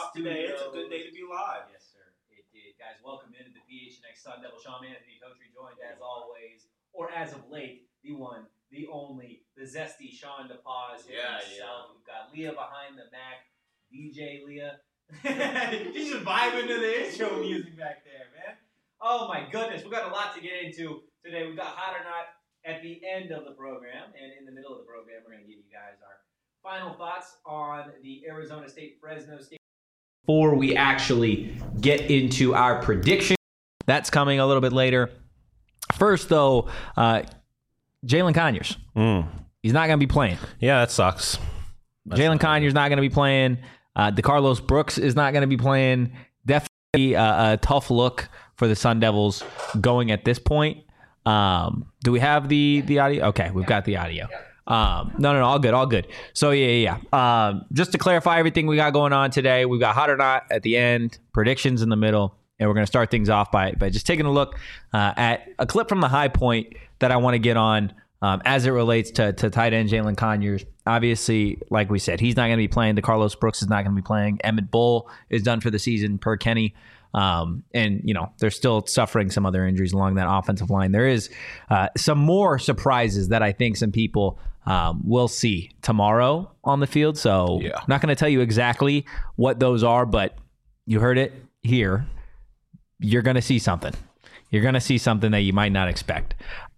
live today. It's a good day to be live. Yes, sir. It did. Guys, welcome into the PHNX Sun Devil. Sean Anthony Totri joined, as always, or as of late, the one, the only, the zesty Sean DePaz himself. We've got Leah behind the Mac, DJ Leah. He's just vibing to the intro music back there, man. Oh, my goodness. We've got a lot to get into today. We've got Hot or Not at the end of the program, and in the middle of the program, we're going to give you guys our final thoughts on the Arizona State-Fresno State. Before we actually get into our prediction, that's coming a little bit later. First, though, Jalen Conyers. He's not going to be playing. Yeah, that sucks. Jalen Conyers not going to be playing. DeCarlos Brooks is not going to be playing. Definitely a tough look for the Sun Devils going at this point. Do we have the audio? Okay, we've got the audio. No, all good. So yeah. Just to clarify everything we got going on today, we've got Hot or Not at the end, predictions in the middle, and we're going to start things off by just taking a look at a clip from the high point that I want to get on as it relates to tight end Jalen Conyers. Obviously, like we said, he's not going to be playing. DeCarlos Brooks is not going to be playing. Emmett Bull is done for the season per Kenny. And, they're still suffering some other injuries along that offensive line. There is some more surprises that I think some people will see tomorrow on the field. So I'm not going to tell you exactly what those are, but you heard it here. You're going to see something. You're going to see something that you might not expect.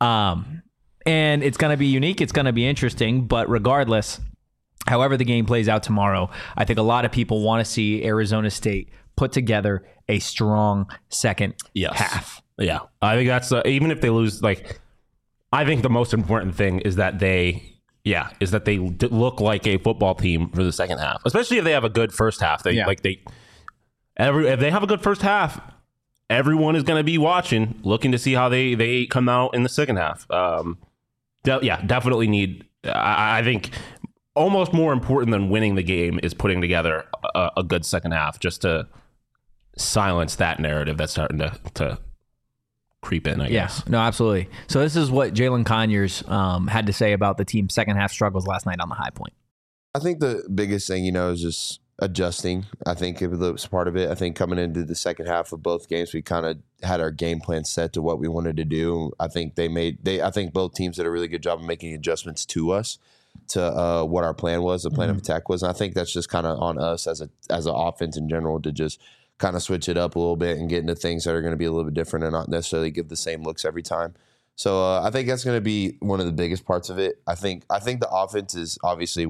And it's going to be unique. It's going to be interesting. But regardless, however the game plays out tomorrow, I think a lot of people want to see Arizona State put together a strong second half. Yeah. I think that's, even if they lose, I think the most important thing is that they look like a football team for the second half, especially if they have a good first half. If they have a good first half, everyone is going to be watching, looking to see how they come out in the second half. Definitely need, I think almost more important than winning the game is putting together a good second half, just to silence that narrative that's starting to creep in, I guess. No, absolutely. So this is what Jalen Conyers had to say about the team's second half struggles last night on the high point. I think the biggest thing, is just adjusting. I think it was part of it. I think coming into the second half of both games, we kind of had our game plan set to what we wanted to do. I think I think both teams did a really good job of making adjustments to us, to what our plan was, the plan of attack was. And I think that's just kind of on us as an offense in general to just kind of switch it up a little bit and get into things that are going to be a little bit different and not necessarily give the same looks every time. So I think that's going to be one of the biggest parts of it. I think the offense is obviously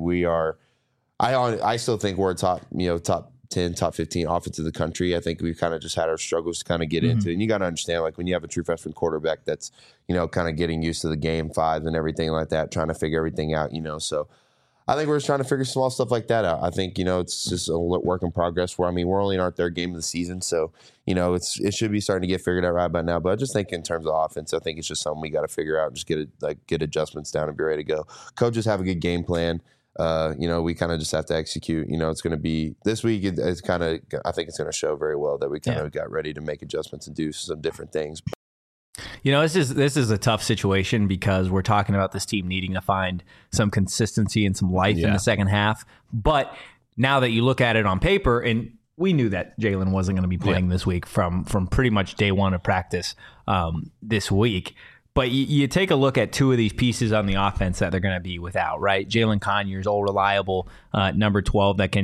I still think we're top 10, top 15 offense of the country. I think we've kind of just had our struggles to kind of get into it. And you got to understand, when you have a true freshman quarterback that's, kind of getting used to the game 5 and everything like that, trying to figure everything out, So I think we're just trying to figure small stuff like that out. I think, it's just a work in progress where, we're only in our third game of the season. So, it should be starting to get figured out right by now. But I just think in terms of offense, I think it's just something we got to figure out and just get adjustments down and be ready to go. Coaches have a good game plan. We kind of just have to execute. It's going to be this week. It's kind of, I think it's going to show very well that we kind of got ready to make adjustments and do some different things. This is a tough situation because we're talking about this team needing to find some consistency and some life in the second half. But now that you look at it on paper, and we knew that Jalen wasn't going to be playing this week from pretty much day one of practice this week. But you take a look at two of these pieces on the offense that they're going to be without, right? Jalen Conyers, old reliable number 12 that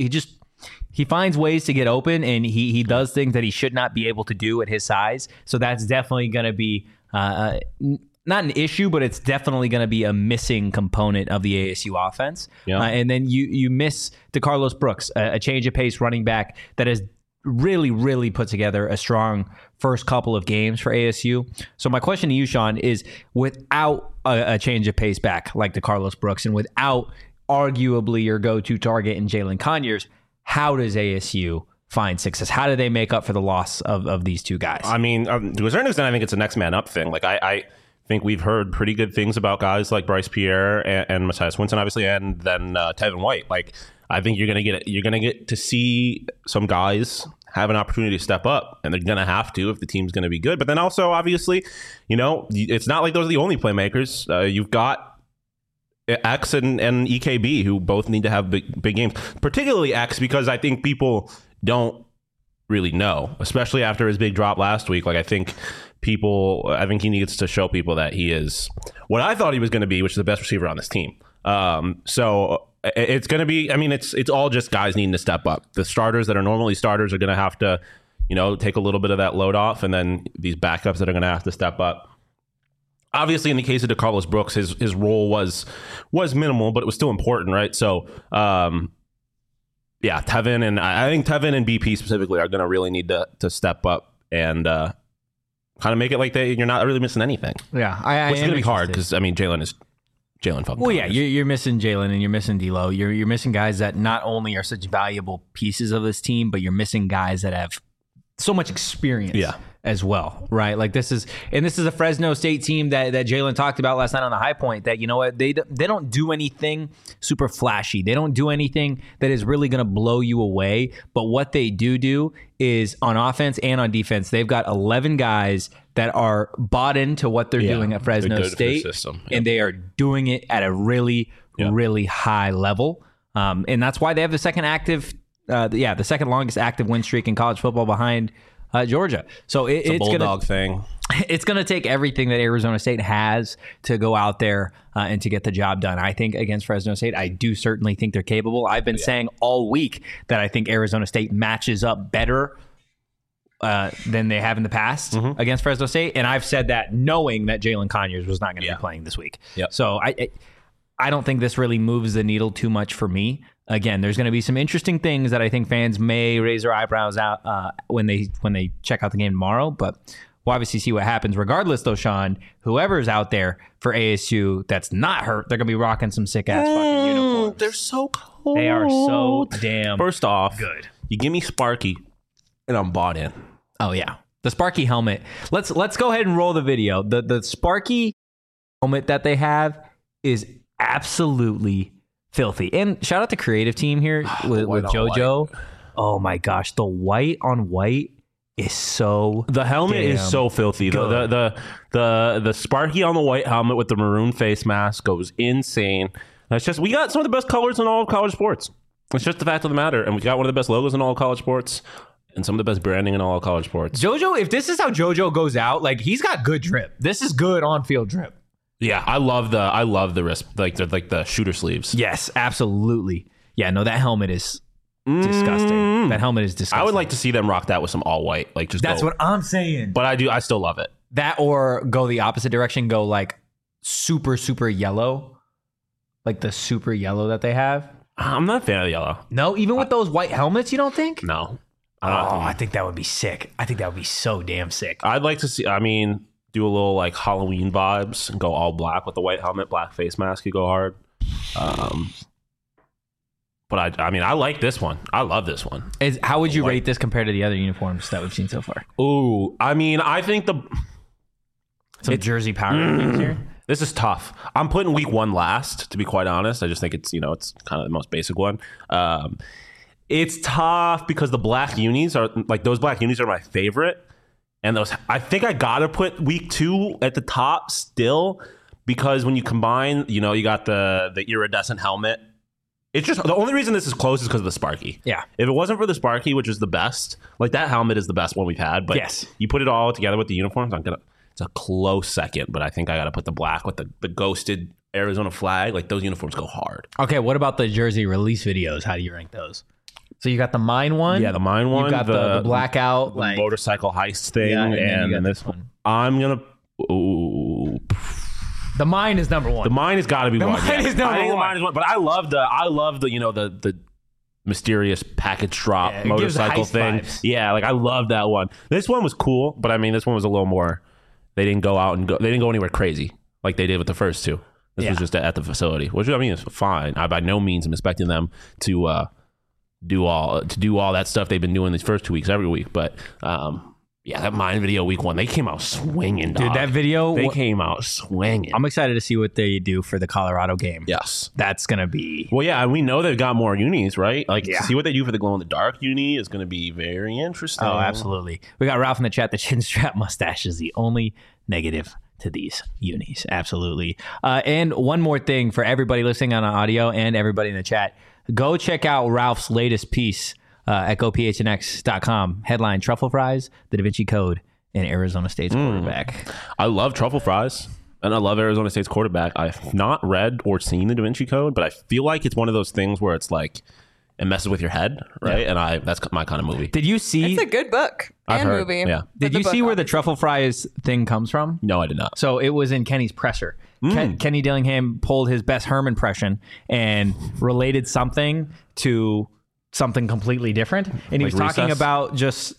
he finds ways to get open, and he does things that he should not be able to do at his size. So that's definitely going to be not an issue, but it's definitely going to be a missing component of the ASU offense. Yeah. And then you miss DeCarlos Brooks, a change of pace running back that has really, really put together a strong first couple of games for ASU. So my question to you, Sean, is without a change of pace back like DeCarlos Brooks and without arguably your go-to target in Jalen Conyers, how does ASU find success? How do they make up for the loss of these two guys? To a certain extent, I think it's a next man up thing. I think we've heard pretty good things about guys like Bryce Pierre and Matthias Winston, obviously, and then Tevin White. I think you're gonna get to see some guys have an opportunity to step up, and they're gonna have to if the team's gonna be good. But then also, obviously, it's not like those are the only playmakers. You've got X and EKB, who both need to have big games, particularly X, because I think people don't really know, especially after his big drop last week. Like I think he needs to show people that he is what I thought he was going to be, which is the best receiver on this team. So it's going to be, I mean, it's all just guys needing to step up. The starters that are normally starters are going to have to, take a little bit of that load off, and then these backups that are going to have to step up. Obviously, in the case of DeCarlos Brooks, his role was minimal, but it was still important, right? So, Tevin, and I think Tevin and BP specifically are going to really need to step up and kind of make it like you're not really missing anything. Yeah, it's going to be hard because Jalen is Jalen fucking. Well, yeah, you're missing Jalen and you're missing D'Lo. You're missing guys that not only are such valuable pieces of this team, but you're missing guys that have so much experience. As well, right? Like this is a Fresno State team that Jalen talked about last night on the High Point. That they don't do anything super flashy. They don't do anything that is really going to blow you away. But what they do is on offense and on defense, they've got 11 guys that are bought into what they're doing at Fresno State, and they are doing it at a really really high level. And that's why they have the second longest active win streak in college football behind Georgia. So it's a bulldog thing. It's going to take everything that Arizona State has to go out there and to get the job done. I think against Fresno State, I do certainly think they're capable. I've been saying all week that I think Arizona State matches up better than they have in the past against Fresno State. And I've said that knowing that Jalen Conyers was not going to be playing this week. So I don't think this really moves the needle too much for me. Again, there's going to be some interesting things that I think fans may raise their eyebrows out when they check out the game tomorrow. But we'll obviously see what happens. Regardless, though, Sean, whoever's out there for ASU that's not hurt, they're going to be rocking some sick-ass fucking uniforms. They're so cool. They are so damn First off, good. You give me Sparky, and I'm bought in. Oh, yeah. The Sparky helmet. Let's go ahead and roll the video. The Sparky helmet that they have is absolutely filthy. And shout out to creative team here with JoJo. Oh my gosh, the white on white is so the helmet is so filthy. The Sparky on the white helmet with the maroon face mask goes insane. That's just, we got some of the best colors in all of college sports. It's just the fact of the matter. And we got one of the best logos in all of college sports and some of the best branding in all of college sports. JoJo, if this is how JoJo goes out, like he's got good drip. This is good on-field drip. Yeah, I love the wrist, like the shooter sleeves. Yes, absolutely. Yeah, no, that helmet is disgusting. That helmet is disgusting. I would like to see them rock that with some all white, like just. That's what I'm saying. But I still love it. That or go the opposite direction, go like super super yellow, like the super yellow that they have. I'm not a fan of the yellow. No, even with those white helmets, you don't think? No. I think that would be sick. I think that would be so damn sick. I'd like to see. I mean, do a little like Halloween vibes and go all black with the white helmet, black face mask. You go hard. But I mean, I like this one. I love this one. How would you rate this compared to the other uniforms that we've seen so far? Ooh, I mean, I think some jersey power rankings here. This is tough. I'm putting week one last, to be quite honest. I just think it's kind of the most basic one. It's tough because the black unis are like, those black unis are my favorite. And those, I think I got to put week two at the top still, because when you combine, you got the iridescent helmet. It's just, the only reason this is close is because of the Sparky. Yeah. If it wasn't for the Sparky, which is the best, like that helmet is the best one we've had. But yes, you put it all together with the uniforms, it's a close second, but I think I got to put the black with the ghosted Arizona flag. Like those uniforms go hard. Okay. What about the jersey release videos? How do you rank those? So you got the mine one. Yeah, the mine one. You got the blackout, the motorcycle heist thing, and then this one. I'm gonna. Ooh. The mine is number one. The mine has got to be one. The mine is number one. The mine is one. But I love the mysterious package drop motorcycle thing. Vibes. Yeah, like I love that one. This one was cool, but I mean, this one was a little more. They didn't go out and they didn't go anywhere crazy like they did with the first two. This was just at the facility, which I mean is fine. I by no means am expecting them to do all that stuff they've been doing these first 2 weeks every week, but that mine video week one, they came out swinging, dog. Dude, that video, they came out swinging. I'm excited to see what they do for the Colorado game. Yes, that's gonna be. Well, yeah, we know they've got more unis, right? Like, to see what they do for the glow in the dark uni is going to be very interesting. Oh, absolutely. We got Ralph in the chat. The chin strap mustache is the only negative to these unis. Absolutely. And one more thing for everybody listening on audio and everybody in the chat. Go check out Ralph's latest piece at gophnx.com. Headline: Truffle Fries, the Da Vinci Code, and Arizona State's quarterback. I love truffle fries. And I love Arizona State's quarterback. I've not read or seen the Da Vinci Code, but I feel like it's one of those things where it's like it messes with your head, right? Yeah. And that's my kind of movie. Did you see? It's a good book I've and heard, movie. yeah. Did you see where the truffle fries thing comes from? No, I did not. So it was in Kenny's presser. Kenny Dillingham pulled his Bess Herm impression and related something to something completely different. And he was talking Recess? about just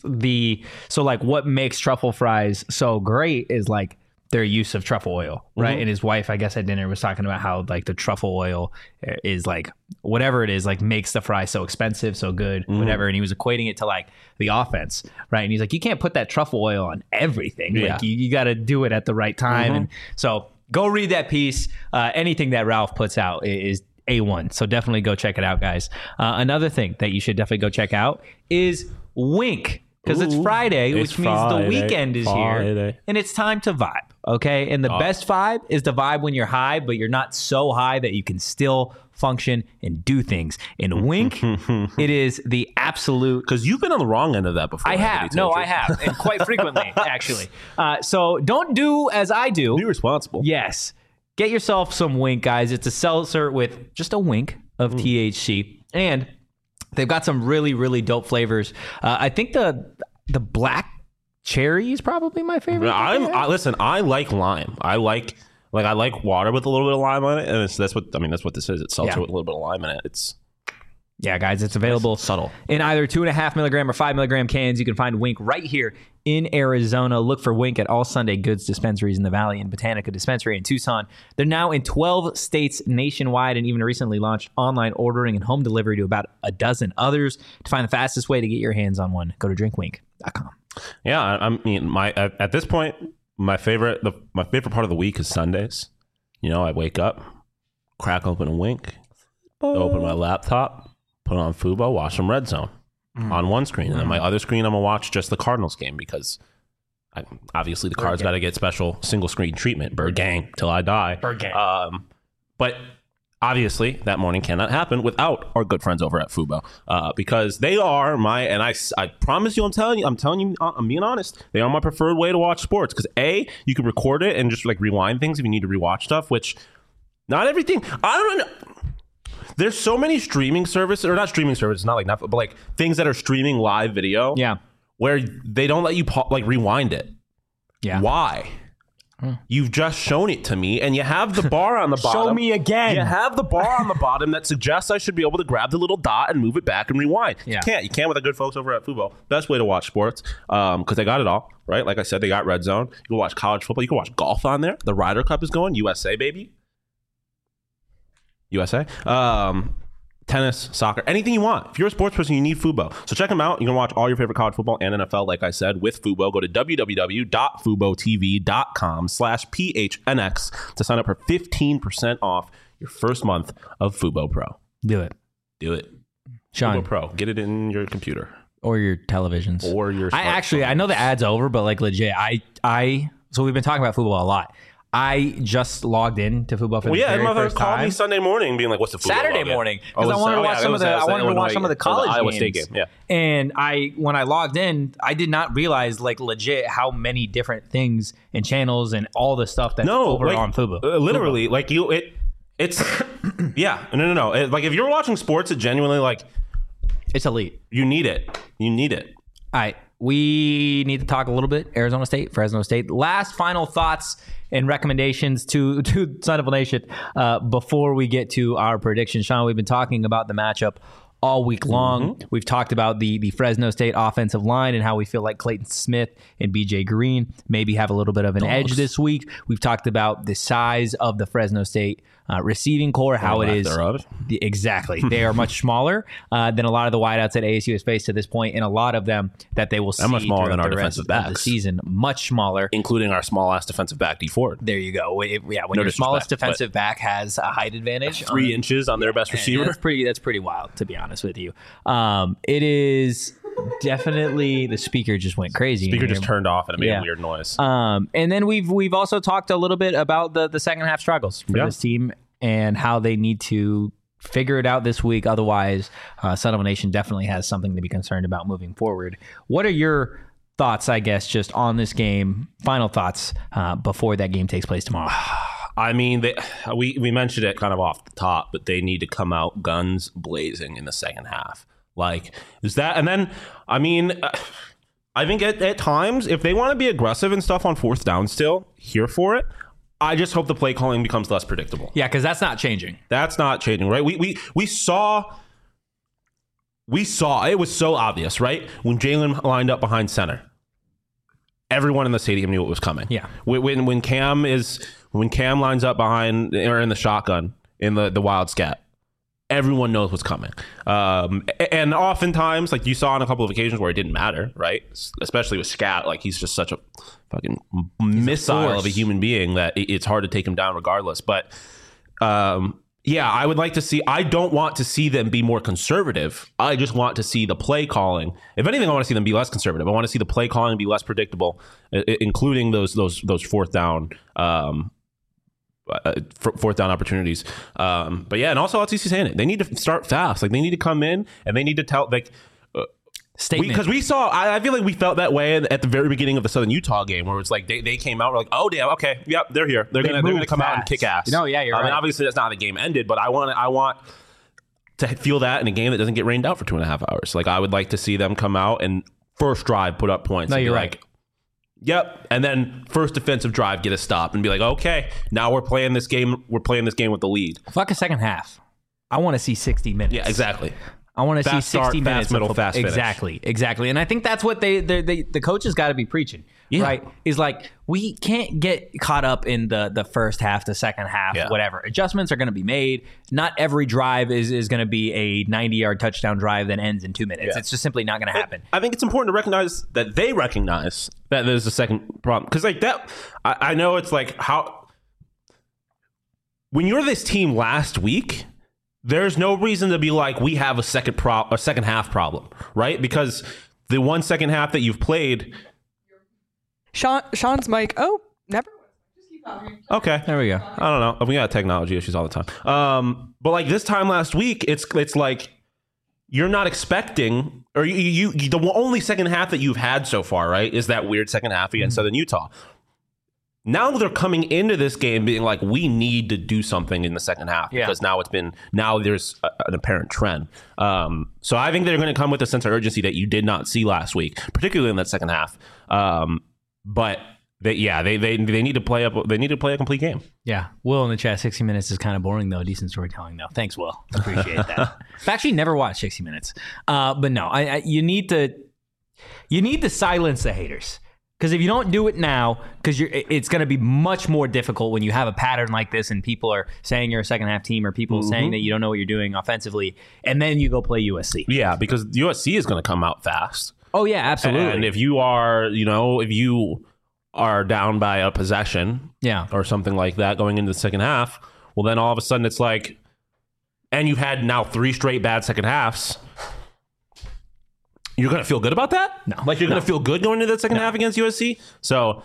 what makes truffle fries so great is like their use of truffle oil, right? And his wife, I guess at dinner, was talking about how like the truffle oil is like whatever it is, like makes the fry so expensive, so good, whatever. And he was equating it to like the offense, right? And he's like, you can't put that truffle oil on everything. Yeah. Like you got to do it at the right time. And so go read that piece. Anything that Ralph puts out is A1. So definitely go check it out, guys. Another thing that you should definitely go check out is Wink. Because it's Friday, It's which means Friday. the weekend is here. Friday. And it's time to vibe, okay? And the best vibe is the vibe when you're high, but you're not so high that you can still function and do things. In Wink, it is the absolute... Because you've been on the wrong end of that before. I have. No, I have. And quite frequently, actually. So don't do as I do. Be responsible. Yes. Get yourself some Wink, guys. It's a seltzer with just a wink of THC. And they've got some really, really dope flavors. I think the black cherry is probably my favorite. Listen, I like lime. I like water with a little bit of lime on it, and that's what this is. It's seltzer with a little bit of lime in it. Yeah, guys, it's available subtle in either 2.5 milligram or 5 milligram cans. You can find Wink right here in Arizona. Look for Wink at all Sunday Goods dispensaries in the Valley and Botanica Dispensary in Tucson. They're now in 12 states nationwide and even recently launched online ordering and home delivery to about a dozen others. To find the fastest way to get your hands on one, go to drinkwink.com. Yeah, I mean, at this point, my favorite part of the week is Sundays. You know, I wake up, crack open a Wink, open my laptop, put on Fubo, watch some Red Zone on one screen. And then my other screen, I'm going to watch just the Cardinals game because obviously the Cards got to get special single screen treatment. Bird Gang till I die. Bird Gang. But obviously that morning cannot happen without our good friends over at Fubo because they are I promise you, I'm being honest. They are my preferred way to watch sports because you can record it and just like rewind things if you need to rewatch stuff, which not everything. I don't know. There's so many streaming services, or not streaming services, not like Netflix, but like things that are streaming live video. Yeah. Where they don't let you rewind it. Yeah. Why? You've just shown it to me, and you have the bar on the bottom. Show me again. You have the bar on the bottom that suggests I should be able to grab the little dot and move it back and rewind. Yeah. You can't with the good folks over at Fubo. Best way to watch sports because they got it all, right? Like I said, they got Red Zone. You can watch college football. You can watch golf on there. The Ryder Cup is going. USA, baby. USA. Tennis, soccer, anything you want. If you're a sports person, you need Fubo. So check them out. You can watch all your favorite college football and NFL, like I said, with Fubo. Go to www.fubotv.com/PHNX to sign up for 15% off your first month of Fubo Pro. Do it. Sean. Fubo Pro. Get it in your computer. Or your televisions. Or your I know the ad's over, but like legit, so we've been talking about Fubo a lot. I just logged in to Fubo for the very first time. Called me Sunday morning being like, what's the Fubo Saturday login? morning. Because I wanted to watch some of the college Iowa games. State game. Yeah. And when I logged in, I did not realize like legit how many different things and channels and all the stuff that's over on Fubo. Literally, Fubo. like it's yeah. No. Like if you're watching sports, it genuinely like it's elite. You need it. All right. We need to talk a little bit Arizona State, Fresno State. Last final thoughts and recommendations to Sun Devil Nation before we get to our prediction. Sean, we've been talking about the matchup all week long. Mm-hmm. We've talked about the Fresno State offensive line and how we feel like Clayton Smith and BJ Green maybe have a little bit of an edge this week. We've talked about the size of the Fresno State receiving core, how it is. Exactly. They are much smaller than a lot of the wideouts that ASU has faced to this point, and a lot of them that they will see much smaller than our the defensive backs of the season. Much smaller. Including our small-ass defensive back, D Ford. There you go. When your smallest defensive back has a height advantage. 3 inches on their best receiver. That's pretty wild, to be honest with you. It is definitely, the speaker just went crazy. Speaker just turned off and it made a weird noise. And then we've also talked a little bit about the second half struggles for this team and how they need to figure it out this week. Otherwise, Son of a Nation definitely has something to be concerned about moving forward. What are your thoughts, I guess, just on this game? Final thoughts before that game takes place tomorrow. I mean, we mentioned it kind of off the top, but they need to come out guns blazing in the second half. Like, is that? And then, I mean, I think at times, if they want to be aggressive and stuff on fourth down still, here for it. I just hope the play calling becomes less predictable. Yeah, because that's not changing. That's not changing, right? We saw it was so obvious, right? When Jalen lined up behind center, everyone in the stadium knew it was coming. Yeah. When Cam lines up behind or in the shotgun in the wild scat, everyone knows what's coming. And oftentimes, like you saw on a couple of occasions where it didn't matter, right? Especially with Scat, like he's just such a fucking missile of a human being that it's hard to take him down regardless. But yeah, I would like to see. I don't want to see them be more conservative. I just want to see the play calling. If anything, I want to see them be less conservative. I want to see the play calling be less predictable, including those fourth down. Fourth down opportunities. But yeah, and also LTC saying it. They need to start fast. Like they need to come in and they need to tell statement. Because we saw, I feel like we felt that way at the very beginning of the Southern Utah game, where it's like they came out, we're like, oh damn, okay, yep, they're here. They're gonna come out and kick ass. No, yeah, you're right. I mean, obviously that's not how the game ended, but I want to feel that in a game that doesn't get rained out for 2.5 hours. Like I would like to see them come out and first drive put up points. No, and you're be right. Like, yep, and then first defensive drive get a stop and be like, okay, now we're playing this game. We're playing this game with the lead. Fuck a second half. I want to see 60 minutes. Yeah, exactly. I want to see 60 start, minutes. Fast middle, fast finish. Exactly. And I think that's what the coaches got to be preaching, right? Is like, we can't get caught up in the first half, the second half, whatever. Adjustments are going to be made. Not every drive is going to be a 90-yard touchdown drive that ends in 2 minutes. Yeah. It's just simply not going to happen. I think it's important to recognize that they recognize that there's a second problem. Because like that, I know it's like how... When you're this team last week... There's no reason to be like, we have a second half problem, right? Because the 1 second half that you've played. Sean's mic. Oh, never. Just keep talking. Okay, there we go. I don't know. We got technology issues all the time. But like this time last week, it's like you're not expecting, or you the only second half that you've had so far, right, is that weird second half against Southern Utah. Now they're coming into this game being like, we need to do something in the second half because now there's an apparent trend. So I think they're going to come with a sense of urgency that you did not see last week, particularly in that second half. But they need to play up. They need to play a complete game. Yeah, Will in the chat. 60 Minutes is kind of boring though. Decent storytelling though. Thanks, Will. Appreciate that. I've actually never watched 60 Minutes, but no, you need to silence the haters. Because if you don't do it now, it's going to be much more difficult when you have a pattern like this and people are saying you're a second half team or people saying that you don't know what you're doing offensively, and then you go play USC. Yeah, because USC is going to come out fast. Oh yeah, absolutely. And if you are down by a possession, or something like that going into the second half, well then all of a sudden it's like, and you've had now 3 straight bad second halves. You're going to feel good about that? No. Like you're going to feel good going into that second half against USC? So,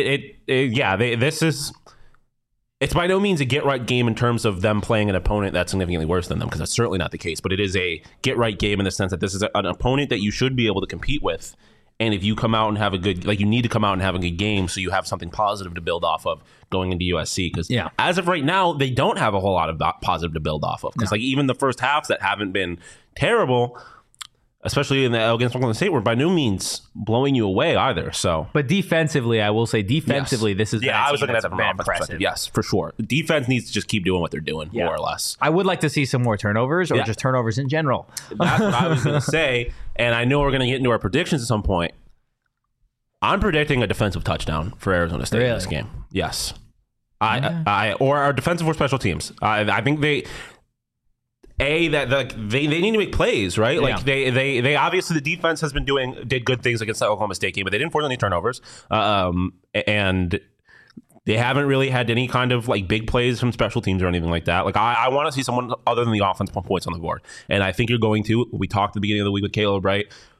it's by no means a get-right game in terms of them playing an opponent that's significantly worse than them, because that's certainly not the case. But it is a get-right game in the sense that this is an opponent that you should be able to compete with. And if you come out and have you need to come out and have a good game so you have something positive to build off of going into USC. Because as of right now, they don't have a whole lot of positive to build off of. Because even the first halves that haven't been terrible... Especially against Oklahoma State, we're by no means blowing you away either. So, but defensively, I will say, this is I was looking at it from impressive. Yes, for sure. The defense needs to just keep doing what they're doing, more or less. I would like to see some more turnovers, or just turnovers in general. That's what I was going to say, and I know we're going to get into our predictions at some point. I'm predicting a defensive touchdown for Arizona State in this game. Yes, or our defensive or special teams. I think they need to make plays, right? Like they obviously the defense has been did good things against the Oklahoma State game, but they didn't force any turnovers, and they haven't really had any kind of like big plays from special teams or anything like that. Like I want to see someone other than the offense put points on the board, and I think you're going to. We talked at the beginning of the week with Caleb, right?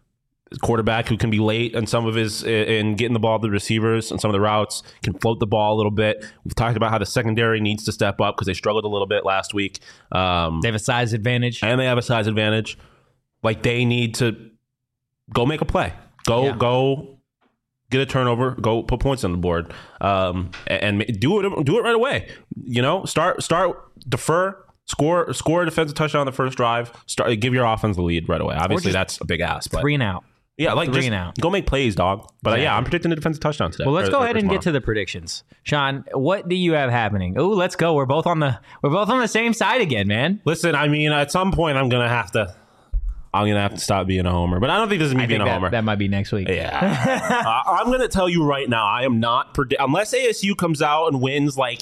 quarterback who can be late on some of his in getting the ball to the receivers and some of the routes, can float the ball a little bit. We've talked about how the secondary needs to step up because they struggled a little bit last week. They have a size advantage. And they have a size advantage. Like, they need to go make a play. Go get a turnover, go put points on the board, and do it right away. You know, start, defer, score a defensive touchdown on the first drive, give your offense the lead right away. Obviously, that's a big ask. But 3 and out. yeah, like Three just and out. Go make plays, dog. But yeah, I'm predicting a defensive touchdown today. Well, let's go ahead and tomorrow. get to the predictions. Sean, what do you have happening? Oh, let's go. We're both on the same side again, man. Listen, I mean, at some point, I'm gonna have to stop being a homer. But I don't think this is me being a homer. That might be next week. Yeah, I'm gonna tell you right now, I am not unless ASU comes out and wins like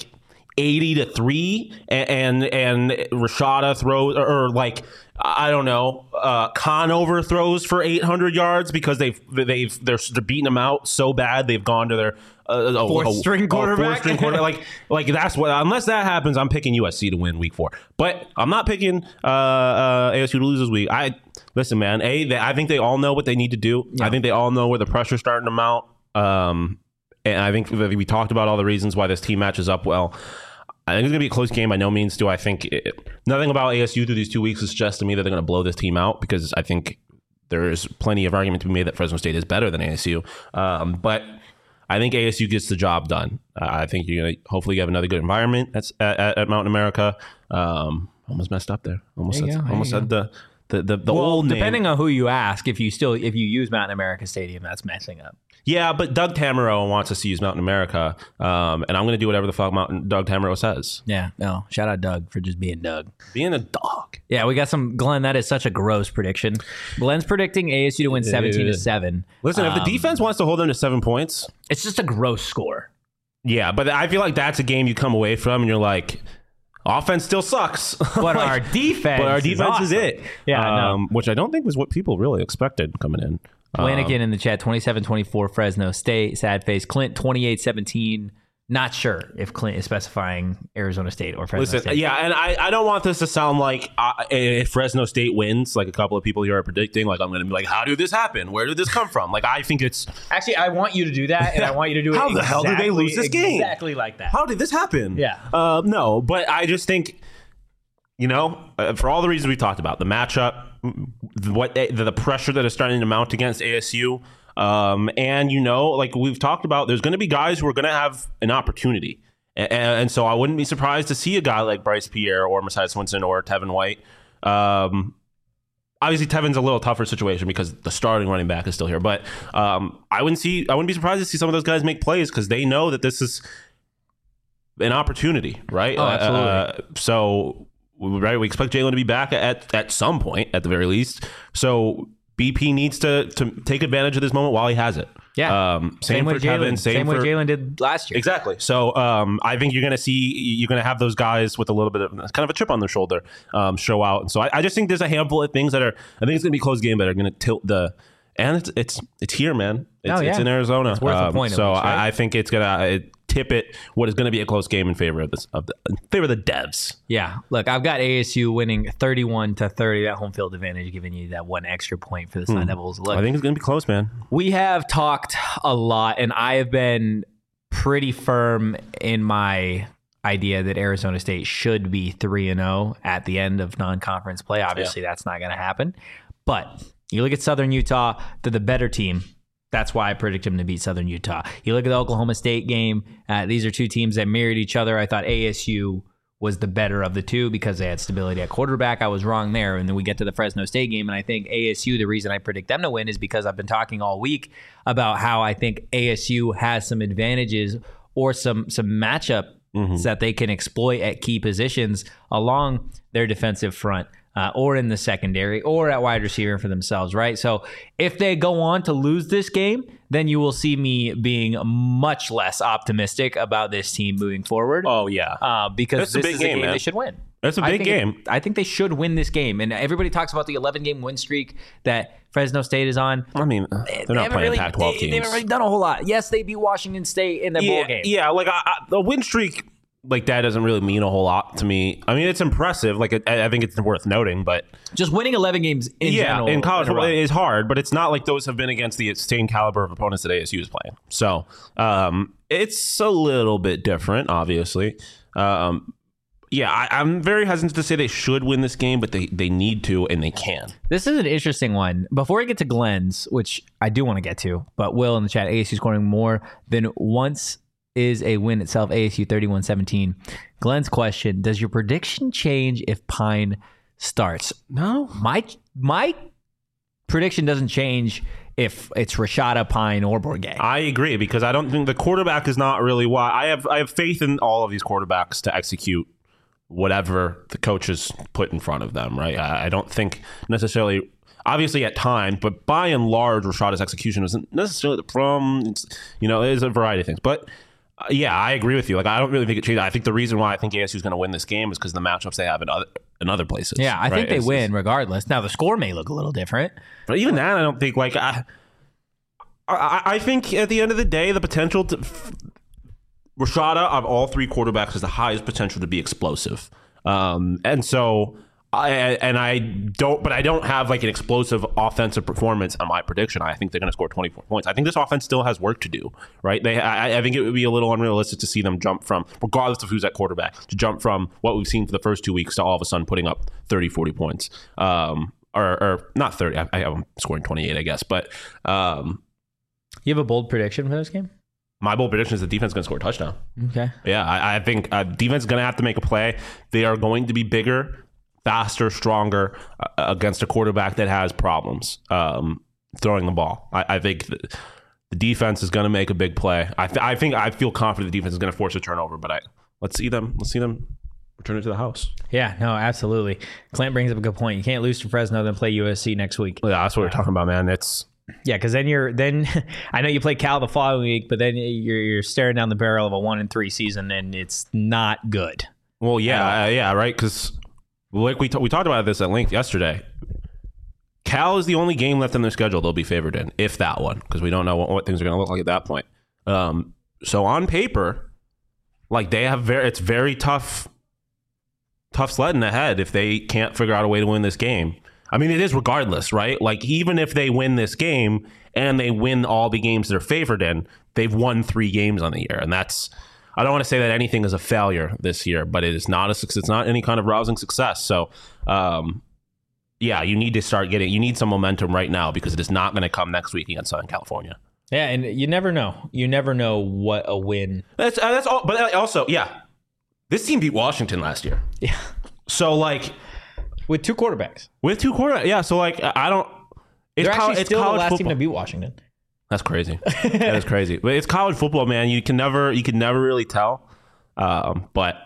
80-3, and Rashada throws or like, I don't know, Conover throws for 800 yards because they're beating them out so bad they've gone to their fourth string quarterback. Like that's what. Unless that happens, I'm picking USC to win week 4. But I'm not picking ASU to lose this week. Listen, man. I think they all know what they need to do. Yeah. I think they all know where the pressure's starting to mount. And I think we talked about all the reasons why this team matches up well. I think it's going to be a close game. By no means do I think nothing about ASU through these 2 weeks suggests to me that they're going to blow this team out, because I think there's plenty of argument to be made that Fresno State is better than ASU. But I think ASU gets the job done. I think you're going to hopefully have another good environment at Mountain America. Almost messed up there. Almost said the old name. Depending on who you ask, if you use Mountain America Stadium, that's messing up. Yeah, but Doug Tamaro wants us to use Mountain America, and I'm going to do whatever the fuck Doug Tamaro says. Yeah, no. Shout out Doug for just being Doug. Being a dog. Yeah, we got some. Glenn, that is such a gross prediction. Glenn's predicting ASU to win 17-7. Listen, if the defense wants to hold them to 7 points, it's just a gross score. Yeah, but I feel like that's a game you come away from and you're like, offense still sucks. But our defense is it. Yeah, which I don't think was what people really expected coming in. Flanagan in the chat, 27-24 Fresno State. Sad face. Clint, 28-17. Not sure if Clint is specifying Arizona State or Fresno State. Yeah, and I don't want this to sound like if Fresno State wins, like a couple of people here are predicting, like I'm going to be like, how did this happen? Where did this come from? Like, I think it's... Actually, I want you to do that, and I want you to do it How the hell did they lose this game? Exactly like that. How did this happen? Yeah. No, but I just think, for all the reasons we talked about, the matchup, the pressure that is starting to mount against ASU, and like we've talked about, there's going to be guys who are going to have an opportunity, and so I wouldn't be surprised to see a guy like Bryce Pierre or Messiah Swinson or Tevin White. Obviously, Tevin's a little tougher situation because the starting running back is still here, but I wouldn't be surprised to see some of those guys make plays because they know that this is an opportunity, right? Oh, absolutely. Right, we expect Jalen to be back at some point, at the very least. So BP needs to take advantage of this moment while he has it. Yeah. Same for Tevin. Same way Jalen did last year. Exactly. So I think you're going to have those guys with a little bit of kind of a chip on their shoulder show out. And so I just think there's a handful of things I think it's going to be a close game that are going to tilt and it's here, man. It's in Arizona. It's worth a point. So least, right? I think it's going to tip it what is going to be a close game in favor of the Devs. Yeah. Look, I've got ASU winning 31-30. That home field advantage giving you that one extra point for the Sun Devils. Look, I think it's going to be close, man. We have talked a lot, and I have been pretty firm in my idea that Arizona State should be 3-0 at the end of non-conference play. Obviously, that's not going to happen. But you look at Southern Utah, they're the better team. That's why I predict them to beat Southern Utah. You look at the Oklahoma State game. These are two teams that mirrored each other. I thought ASU was the better of the two because they had stability at quarterback. I was wrong there. And then we get to the Fresno State game, and I think ASU, the reason I predict them to win is because I've been talking all week about how I think ASU has some advantages or some matchup that they can exploit at key positions along their defensive front. Or in the secondary, or at wide receiver for themselves, right? So if they go on to lose this game, then you will see me being much less optimistic about this team moving forward. Oh, yeah. Because this is a game they should win. That's a big game. I think they should win this game. And everybody talks about the 11-game win streak that Fresno State is on. I mean, they're not playing Pac-12 teams. They haven't really done a whole lot. Yes, they beat Washington State in the bowl game. Yeah, like the win streak like that doesn't really mean a whole lot to me. I mean, it's impressive. Like I think it's worth noting, but just winning 11 games in general in college in a row. football is hard, but it's not like those have been against the same caliber of opponents that ASU is playing. So it's a little bit different, obviously. I'm very hesitant to say they should win this game, but they need to and they can. This is an interesting one. Before we get to Glenn's, which I do want to get to, but Will in the chat, ASU scoring more than once is a win itself, ASU 31-17. Glenn's question, does your prediction change if Pine starts? No. My prediction doesn't change if it's Rashada, Pine, or Bourget. I agree, because I don't think the quarterback is not really why. I have faith in all of these quarterbacks to execute whatever the coaches put in front of them, right? I don't think necessarily, obviously at times, but by and large, Rashada's execution isn't necessarily the problem. There's a variety of things. But I agree with you. Like, I don't really think it changed. I think the reason why I think ASU is going to win this game is because of the matchups they have in other places. Yeah, I think they win regardless. Now, the score may look a little different. But even that, I don't think, like, I think at the end of the day, the potential to... Rashada, of all three quarterbacks, has the highest potential to be explosive. And so... I don't have like an explosive offensive performance on my prediction. I think they're going to score 24 points. I think this offense still has work to do, right? I think it would be a little unrealistic to see them jump from, regardless of who's at quarterback, to jump from what we've seen for the first 2 weeks to all of a sudden putting up 30, 40 points. Or not 30. I have them scoring 28, I guess. But you have a bold prediction for this game? My bold prediction is the defense is going to score a touchdown. Okay. Yeah, I think defense is going to have to make a play. They are going to be bigger, faster, stronger against a quarterback that has problems throwing the ball. I think the defense is going to make a big play. I feel confident the defense is going to force a turnover, but let's see them return it to the house. Yeah, no, absolutely. Clint brings up a good point. You can't lose to Fresno, then play USC next week. Yeah, that's what we're talking about, man. Because then I know you play Cal the following week, but then you're staring down the barrel of a 1-3 season, and it's not good. Well, yeah, right, because. Like we talked about this at length yesterday. Cal is the only game left in their schedule they'll be favored in, if that one, because we don't know what things are going to look like at that point. So on paper, like it's very tough sledding ahead if they can't figure out a way to win this game. I mean, it is regardless, right? Like, even if they win this game and they win all the games they're favored in, they've won 3 games on the year, and that's. I don't want to say that anything is a failure this year, but it is not a success. It's not any kind of rousing success. So, you need to start you need some momentum right now, because it is not going to come next week against Southern California. Yeah, and you never know. You never know what a win. That's all. But also, this team beat Washington last year. Yeah. So, like, with 2 quarterbacks. Yeah. So, like, I don't. They're actually still the last football. team to beat Washington. That's crazy. That is crazy. But it's college football, man. You can never really tell. But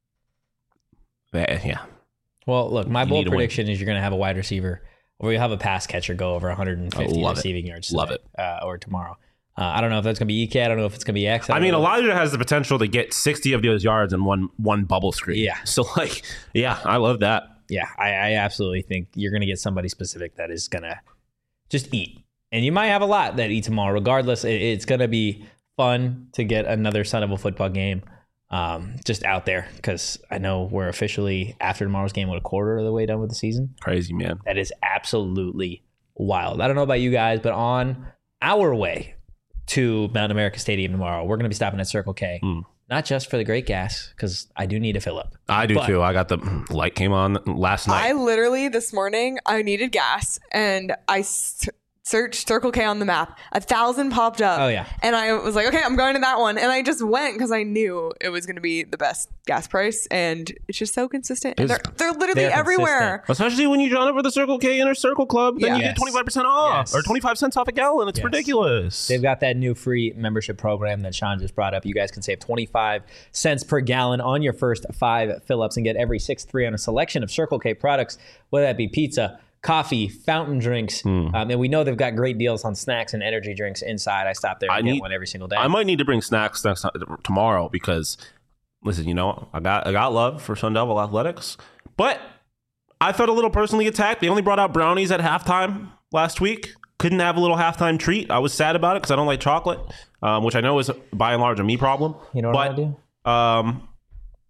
yeah. Well, look, my bold prediction is you're going to have a wide receiver, or you have a pass catcher go over 150 receiving yards today, love it. Or tomorrow. I don't know if that's going to be EK. I don't know if it's going to be X. I mean, Elijah has the potential to get 60 of those yards in one bubble screen. Yeah. So, like, I love that. Yeah, I absolutely think you're going to get somebody specific that is going to just eat. And you might have a lot that eat tomorrow. Regardless, it's going to be fun to get another Sun Devil football game just out there, because I know we're officially, after tomorrow's game, a quarter of the way done with the season. Crazy, man. That is absolutely wild. I don't know about you guys, but on our way to Mountain America Stadium tomorrow, we're going to be stopping at Circle K. Not just for the great gas, because I do need a fill up. I do too. I got the light came on last night. I literally, this morning, I needed gas, and I searched Circle K on the map. 1,000 popped up. Oh, yeah. And I was like, okay, I'm going to that one. And I just went because I knew it was going to be the best gas price. And it's just so consistent. And they're literally everywhere. Especially when you join up with the Circle K Inner Circle Club, then you get 25% off or 25 cents off a gallon. It's ridiculous. They've got that new free membership program that Sean just brought up. You guys can save 25 cents per gallon on your first 5 fill-ups and get every 6th free on a selection of Circle K products, whether that be pizza, coffee, fountain drinks, and we know they've got great deals on snacks and energy drinks inside. I stop there and get one every single day. I might need to bring snacks tomorrow, because, listen, I got love for Sun Devil athletics, but I felt a little personally attacked. They only brought out brownies at halftime last week. Couldn't have a little halftime treat. I was sad about it because I don't like chocolate, which I know is by and large a me problem. You know what I do?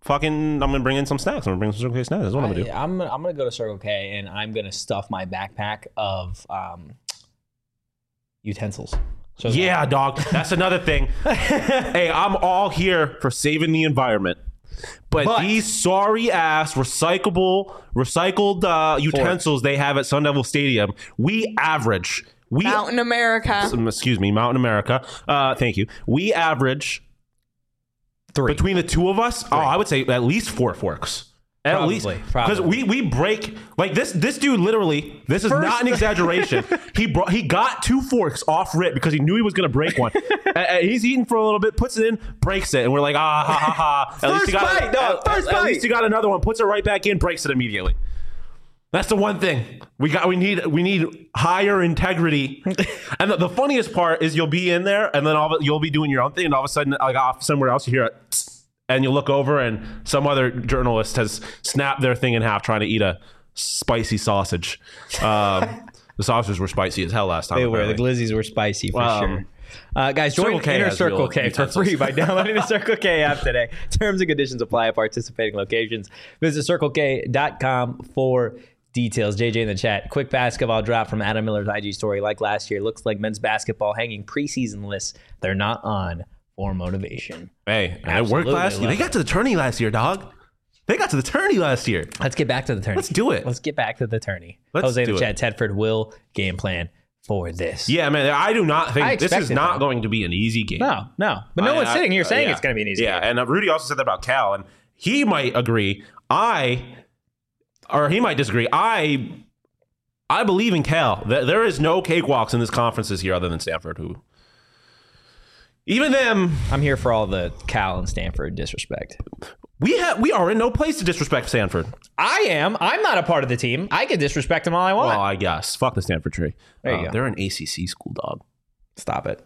I'm gonna bring in some snacks. I'm gonna bring some Circle K snacks. That's what I'm gonna do. I'm gonna go to Circle K and I'm gonna stuff my backpack of utensils. So Yeah, dog. That's another thing. Hey, I'm all here for saving the environment. But these sorry ass recycled utensils they have at Sun Devil Stadium, Mountain America. Excuse me, Mountain America. Thank you. We average 3 between the two of us. Oh, I would say at least 4 forks. At least, because we break like this dude literally. This is not an exaggeration. He got 2 forks off rip because he knew he was going to break one. He's eating for a little bit, puts it in, breaks it, and we're like, ha ha ha. At least he got another one, puts it right back in, breaks it immediately. That's the one thing we need higher integrity. And the funniest part is you'll be in there, and then you'll be doing your own thing, and all of a sudden, like off somewhere else, you hear it. And you look over and some other journalist has snapped their thing in half trying to eat a spicy sausage. The sausages were spicy as hell last time. They were. The glizzies were spicy for sure. Guys, join Inner Circle K for free by downloading the Circle K app today. Terms and conditions apply at participating locations. Visit CircleK.com for details. JJ in the chat. Quick basketball drop from Adam Miller's IG story. Like last year, looks like men's basketball hanging preseason lists they're not on for motivation. Hey, and it worked last year. They got to the tourney last year, dog. They got to the tourney last year. Let's get back to the tourney. Let's do it. Let's get back to the tourney. Jose in the chat. Tedford will game plan for this. Yeah, man. I do not think this is not going to be an easy game. No. But no one's sitting here saying it's going to be an easy game. Yeah, and Rudy also said that about Cal, and he might agree. Or he might disagree. I believe in Cal. There is no cakewalks in this conference this year other than Stanford, who... Even them, I'm here for all the Cal and Stanford disrespect. We are in no place to disrespect Stanford. I am. I'm not a part of the team. I can disrespect them all I want. Well, I guess. Fuck the Stanford tree. There you go. They're an ACC school, dog. Stop it.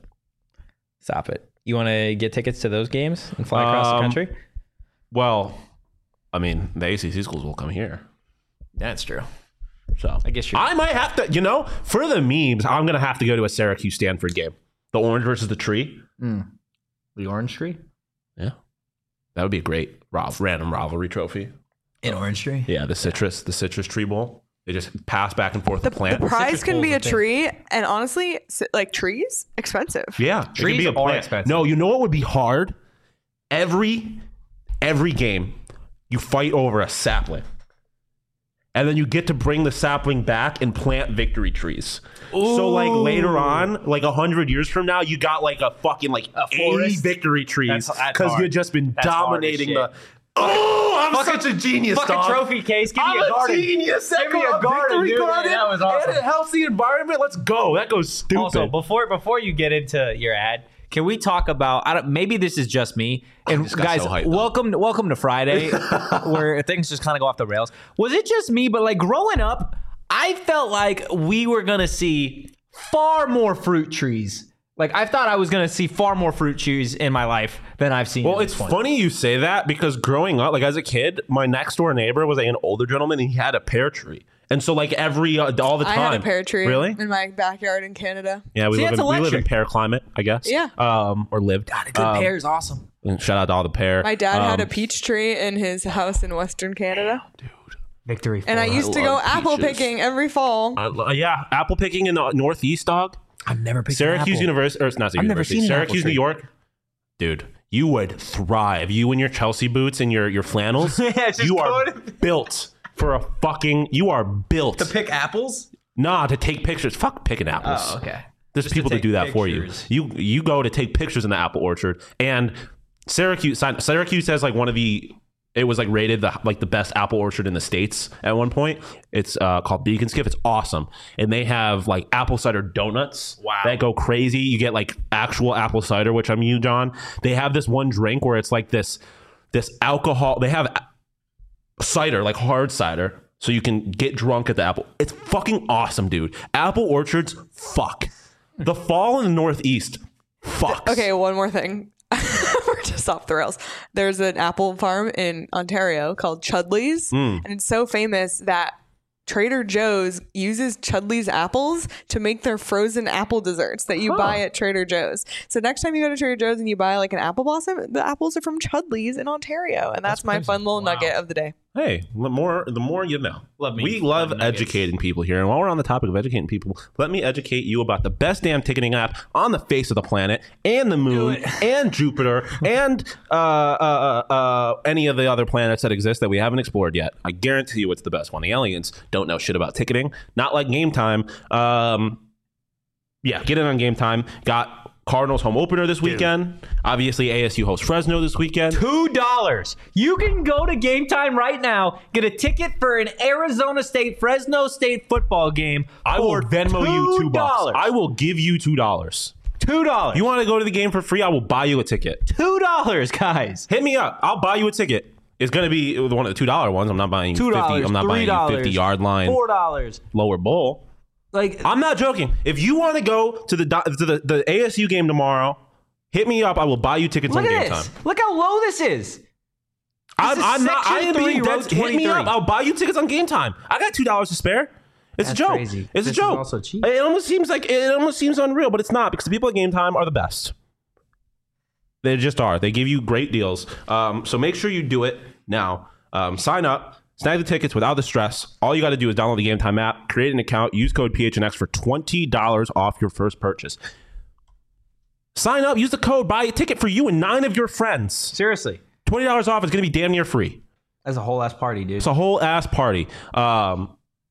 You want to get tickets to those games and fly across the country? Well, I mean, the ACC schools will come here. That's true. So I guess I might have to, for the memes, I'm going to have to go to a Syracuse-Stanford game. The orange versus the tree. The orange tree? Yeah. That would be a great random rivalry trophy. An orange tree? Yeah, the citrus tree bowl. They just pass back and forth the plant. The prize can be a tree, and honestly, like trees, expensive. Yeah, trees it can be a plant. Expensive. No, you know what would be hard? Every game, you fight over a sapling. And then you get to bring the sapling back and plant victory trees. Ooh. So like later on, like 100 years from now, you got like a fucking like 80 victory trees because you've just been dominating the. Oh, I'm such a genius, fucking dog. Trophy case. Give me a garden. Genius. Give me a garden, dude. Garden. That was awesome. And it helps the environment. Let's go. That goes stupid. Also, before you get into your ad, can we talk about? Maybe this is just me. And guys, so hyped, welcome to Friday, where things just kind of go off the rails. Was it just me? But like growing up, I felt like we were gonna see far more fruit trees. Like I thought I was gonna see far more fruit trees in my life than I've seen. Well, it's funny you say that because growing up, like as a kid, my next door neighbor was like an older gentleman, and he had a pear tree. And so, like all the time, I had a pear tree, really, in my backyard in Canada. Yeah, we live in pear climate, I guess. Yeah, or lived. God, a good pear is awesome. And shout out to all the pear. My dad had a peach tree in his house in Western Canada. Dude, victory! And I used to go apple picking every fall. Yeah, apple picking in the Northeast, dog. I've never picked Syracuse University, or it's not University. Syracuse, New York. Dude, you would thrive. You in your Chelsea boots and your flannels. You are built. You are built. To pick apples? Nah, to take pictures. Fuck picking apples. Oh, okay. There's people to do that pictures. For you. You go to take pictures in the apple orchard. And Syracuse has like it was like rated the best apple orchard in the States at one point. It's called Beacon Skiff. It's awesome. And they have like apple cider donuts. Wow. That go crazy. You get like actual apple cider, which I'm you, John. They have this one drink where it's like this alcohol. They have cider, like hard cider, so you can get drunk at the apple. It's fucking awesome, dude. Apple orchards, fuck. The fall in the Northeast, fucks. Okay, one more thing. We're just off the rails. There's an apple farm in Ontario called Chudley's, and it's so famous that Trader Joe's uses Chudley's apples to make their frozen apple desserts that you buy at Trader Joe's. So next time you go to Trader Joe's and you buy like an apple blossom, the apples are from Chudley's in Ontario. And that's my fun little nugget of the day. Hey, the more you know. We love educating people here. And while we're on the topic of educating people, let me educate you about the best damn ticketing app on the face of the planet and the moon and Jupiter and any of the other planets that exist that we haven't explored yet. I guarantee you it's the best one. The aliens don't know shit about ticketing. Not like Game Time. Get in on Game Time. Got Cardinals home opener this weekend. Obviously, ASU hosts Fresno this weekend. $2. You can go to Game Time right now, get a ticket for an Arizona State, Fresno State football game. I will Venmo you $2. I will give you $2. $2. You want to go to the game for free? I will buy you a ticket. $2, guys. Hit me up. I'll buy you a ticket. It's going to be one of the $2 ones. I'm not buying you 50. I'm not buying you 50-yard line. $4. Lower bowl. Like, I'm not joking. If you want to go to the ASU game tomorrow, hit me up. I will buy you tickets on Game Time. Look how low this is. I'm not. I am being dead. Hit me up. I'll buy you tickets on Game Time. I got $2 to spare. It's a joke. Crazy. It's a joke. Is also cheap. It almost seems unreal, but it's not, because the people at Game Time are the best. They just are. They give you great deals. So make sure you do it now. Sign up. Snag the tickets without the stress. All you got to do is download the Game Time app, create an account, use code PHNX for $20 off your first purchase. Sign up, use the code, buy a ticket for you and 9 of your friends. Seriously. $20 off is going to be damn near free. That's a whole ass party, dude. It's a whole ass party. All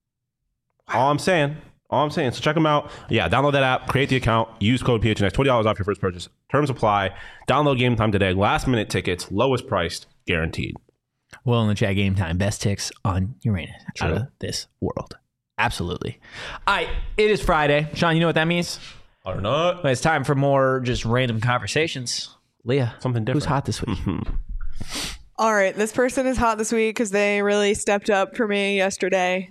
I'm saying. So check them out. Yeah, download that app, create the account, use code PHNX, $20 off your first purchase. Terms apply. Download Game Time today. Last minute tickets, lowest priced, guaranteed. Well, in the chat, Game Time, best ticks on Uranus out of this world. Absolutely. All right, it is Friday. Sean, you know what that means? Or not. Well, it's time for more just random conversations. Leah, something different. Who's hot this week? All right, this person is hot this week because they really stepped up for me yesterday.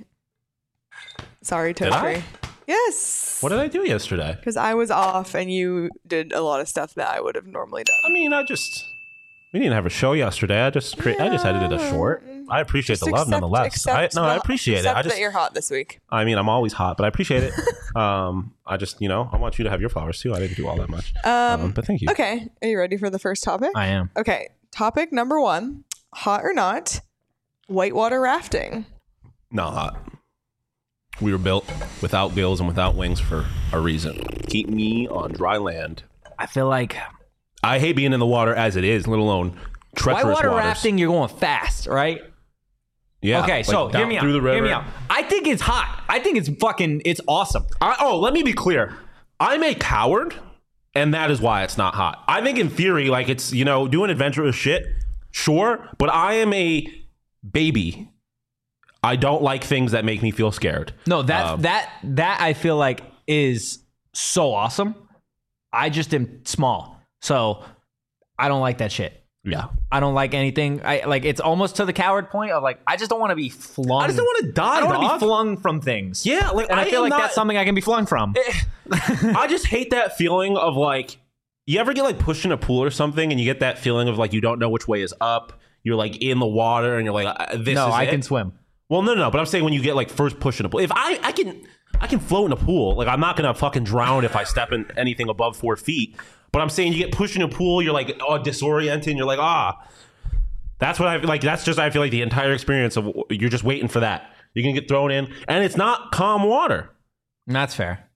Sorry, Toastry. Yes. What did I do yesterday? Because I was off and you did a lot of stuff that I would have normally done. I mean, we didn't have a show yesterday. I just edited a short. I appreciate the love nonetheless. I appreciate it. That you're hot this week. I mean, I'm always hot, but I appreciate it. I just, I want you to have your flowers too. I didn't do all that much. But thank you. Okay. Are you ready for the first topic? I am. Okay. Topic number 1, hot or not, whitewater rafting. Not hot. We were built without gills and without wings for a reason. Keep me on dry land. I feel like I hate being in the water as it is, let alone treacherous whitewater waters. rafting, you're going fast, right? Yeah. Okay, so hear me out. Hear me out. I think it's hot. I think it's awesome. Let me be clear. I'm a coward, and that is why it's not hot. I think in theory, like, it's, doing adventurous shit, sure, but I am a baby. I don't like things that make me feel scared. No, that I feel like is so awesome. I just am small. So I don't like that shit. Yeah. I don't like anything. It's almost to the coward point of like, I just don't want to be flung. I just don't want to die. I don't want to be flung from things. Yeah. And I feel like that's something I can be flung from. I just hate that feeling of like, you ever get like pushed in a pool or something and you get that feeling of like, you don't know which way is up. You're like in the water and you're like, I can swim. Well, no. But I'm saying when you get like first pushed in a pool, if I can float in a pool, like I'm not going to fucking drown if I step in anything above 4 feet. But I'm saying you get pushed in a pool, you're like disoriented, and you're like, that's what I feel like. That's just, I feel like the entire experience of, you're just waiting for that. You're gonna get thrown in, and it's not calm water. That's fair.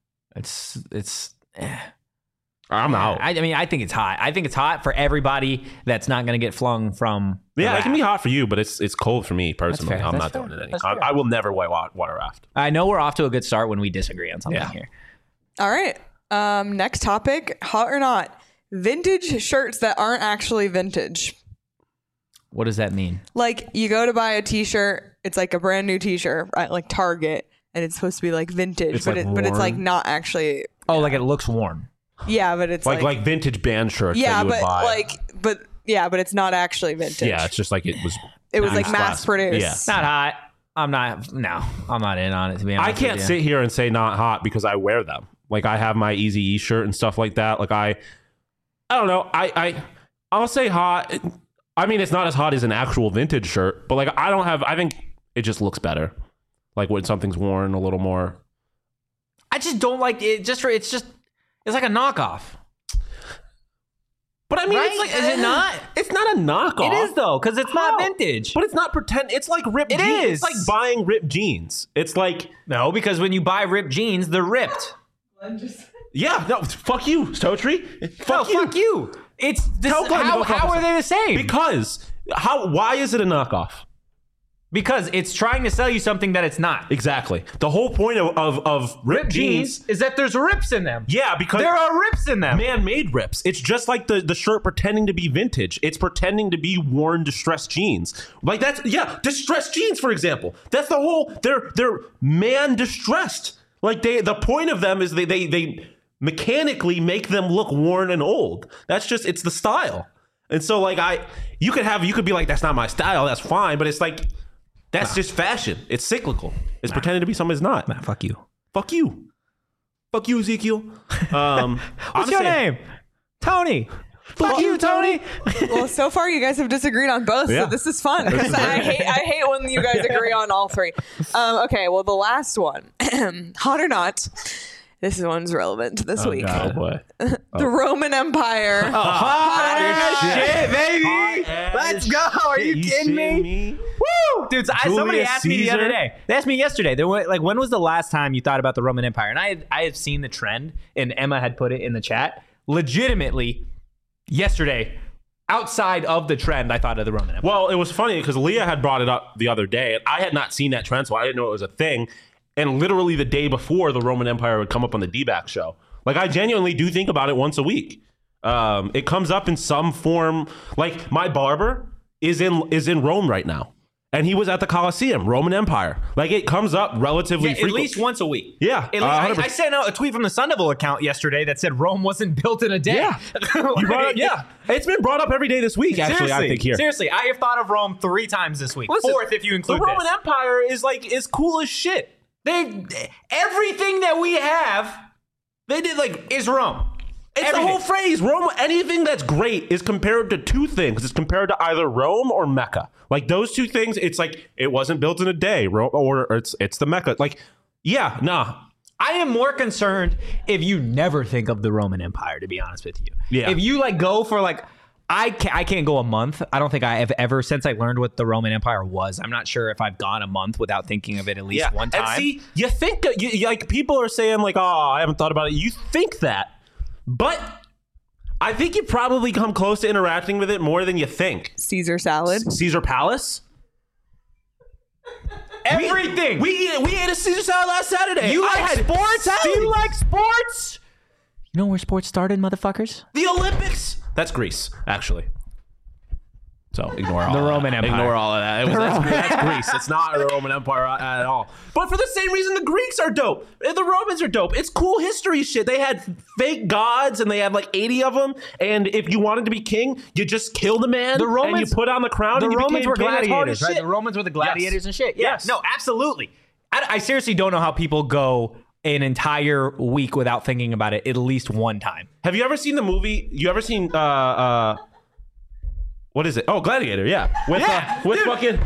I'm out. I mean, I think it's hot. I think it's hot for everybody that's not going to get flung from. Yeah, it can be hot for you, but it's cold for me personally. I'm not doing it anymore. I will never whitewater raft. I know we're off to a good start when we disagree on something here. All right. Next topic, hot or not, vintage shirts that aren't actually vintage. What does that mean? Like, you go to buy a t-shirt, it's like a brand new t-shirt at like Target, and it's supposed to be like vintage, but it's like not actually. Oh, like it looks worn. Yeah, but it's like vintage band shirts. Yeah, that you would buy. but it's not actually vintage. Yeah, it's just like it was like mass produced. Yeah. Not hot. I'm not in on it, to be honest. I can't sit here and say not hot because I wear them. Like, I have my Eazy-E shirt and stuff like that. Like, I don't know. I'll say hot. I mean, it's not as hot as an actual vintage shirt, but like, I think it just looks better. Like when something's worn a little more. I just don't like it. It's like a knockoff. But I mean, Right? it's like, Is it not? It's not a knockoff. It is though, because it's not vintage. But it's not pretend. It's like ripped It jeans. is. It's like buying ripped jeans. It's like, No, because when you buy ripped jeans, they're ripped. yeah, no, fuck you, Stotry. Fuck you. It's this, Tell Glenn to go fuck how are himself. they the same? Because why is it a knockoff? Because it's trying to sell you something that it's not. Exactly. The whole point of ripped jeans. is that there's rips in them. Yeah, because There are rips in them. man-made rips. It's just like the shirt pretending to be vintage. It's pretending to be worn distressed jeans. Like that's distressed jeans, for example. That's the whole. They're man distressed. Like the point of them is they mechanically make them look worn and old. That's just it's the style. And so like you could be like, that's not my style. That's fine, but it's like. That's just fashion. It's cyclical. It's pretending to be something it's not. Nah, fuck you. Fuck you. Fuck you, Ezekiel. What's your name? Tony. Fuck you, Tony. Well, so far you guys have disagreed on both, Yeah. so this is fun. I hate when you guys agree on all three. Okay, well, the last one, hot or not, this one's relevant this week. Oh boy. The Roman Empire. Hot as shit, baby. Hot Let's as go. Are you shit. kidding me? Woo! Dude, somebody Julius asked me the Caesar? other day. They asked me yesterday. They were like, when was the last time you thought about the Roman Empire? And I had seen the trend, and Emma had put it in the chat. Legitimately, yesterday, outside of the trend, I thought of the Roman Empire. Well, it was funny because Leah had brought it up the other day, and I had not seen that trend, so I didn't know it was a thing. And literally the day before, the Roman Empire would come up on the D-Back show. Like, I genuinely do think about it once a week. It comes up in some form. Like, my barber is in Rome right now. And he was at the Colosseum, Roman Empire. Like, it comes up relatively At frequently. least once a week. Yeah, At least, 100%. I sent out a tweet from the Sun Devil account yesterday that said Rome wasn't built in a day. Yeah. You brought up, yeah. It's been brought up every day this week, actually, Seriously, I think here. Seriously, I have thought of Rome 3 times this week. Listen, 4th if you include the Roman this. Empire is cool as shit. Everything that we have, they did is Rome. It's Everything. the whole phrase. Rome, anything that's great is compared to two things. It's compared to either Rome or Mecca. Like those two things, it's like it wasn't built in a day. Rome, or it's the Mecca. Like, yeah, nah. I am more concerned if you never think of the Roman Empire, to be honest with you. Yeah. If you go for I can't go a month. I don't think I have ever, since I learned what the Roman Empire was, I'm not sure if I've gone a month without thinking of it at least one time. And see, you think like people are saying like, oh, I haven't thought about it. You think that, but I think you probably come close to interacting with it more than you think. Caesar salad. Caesar Palace. Everything. We ate a Caesar salad last Saturday. You I like had sports? salad. Do you like sports? You know where sports started, motherfuckers? The Olympics. That's Greece, actually. So ignore all The of Roman that. Empire. Ignore all of that. That's Greece. It's not the Roman Empire at all. But for the same reason, the Greeks are dope. And the Romans are dope. It's cool history shit. They had fake gods, and they had like 80 of them. And if you wanted to be king, you just killed a man. The Romans- and you put on the crown. The and you Romans became were king. That's hard gladiators, as right? shit. The Romans were the gladiators Yes. and shit. Yes. No, absolutely. I seriously don't know how people go an entire week without thinking about it at least one time. Have you ever seen the movie? You ever seen what is it? Oh, Gladiator, yeah. With fucking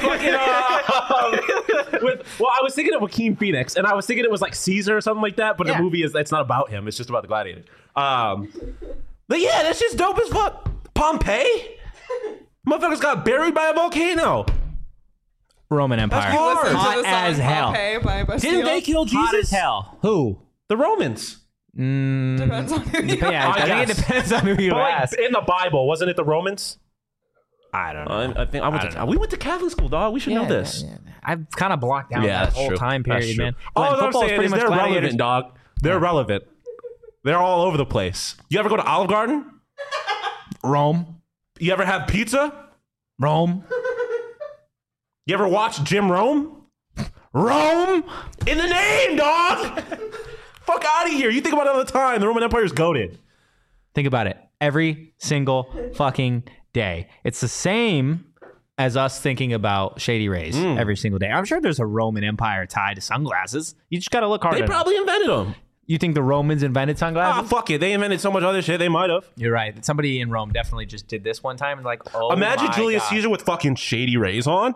well, I was thinking of Joaquin Phoenix, and I was thinking it was like Caesar or something like that, but Yeah. the movie it's not about him. It's just about the gladiator. But yeah, that's just dope as fuck. Pompeii? Motherfuckers got buried by a volcano. Roman Empire. That's hard. Listen to Hot the song as hell. Pompeii by Bastille. Didn't they kill Jesus? Hot as hell. Who? The Romans. Depends on who you Yeah, I think it guess. depends on who you But like ask. in the Bible, wasn't it the Romans? I don't know. I think we went to Catholic school, dog. We should know this. I've kind of blocked out Yeah, that that's whole true. time That's period, true. man. All When I'm football is saying pretty is much they're gladiators. relevant, dog. They're relevant. They're all over the place. You ever go to Olive Garden? Rome. You ever have pizza? Rome. You ever watch Jim Rome? Rome. In the name, dog! Fuck out of here. You think about it all the time. The Roman Empire is goated. Think about it. Every single fucking day. It's the same as us thinking about Shady Rays every single day. I'm sure there's a Roman Empire tied to sunglasses. You just got to look hard They at it. probably invented them. You think the Romans invented Ah, sunglasses? fuck it. They invented so much other shit. They might have. You're right. Somebody in Rome definitely just did this one time and oh Imagine my Julius God. Caesar with fucking Shady Rays on.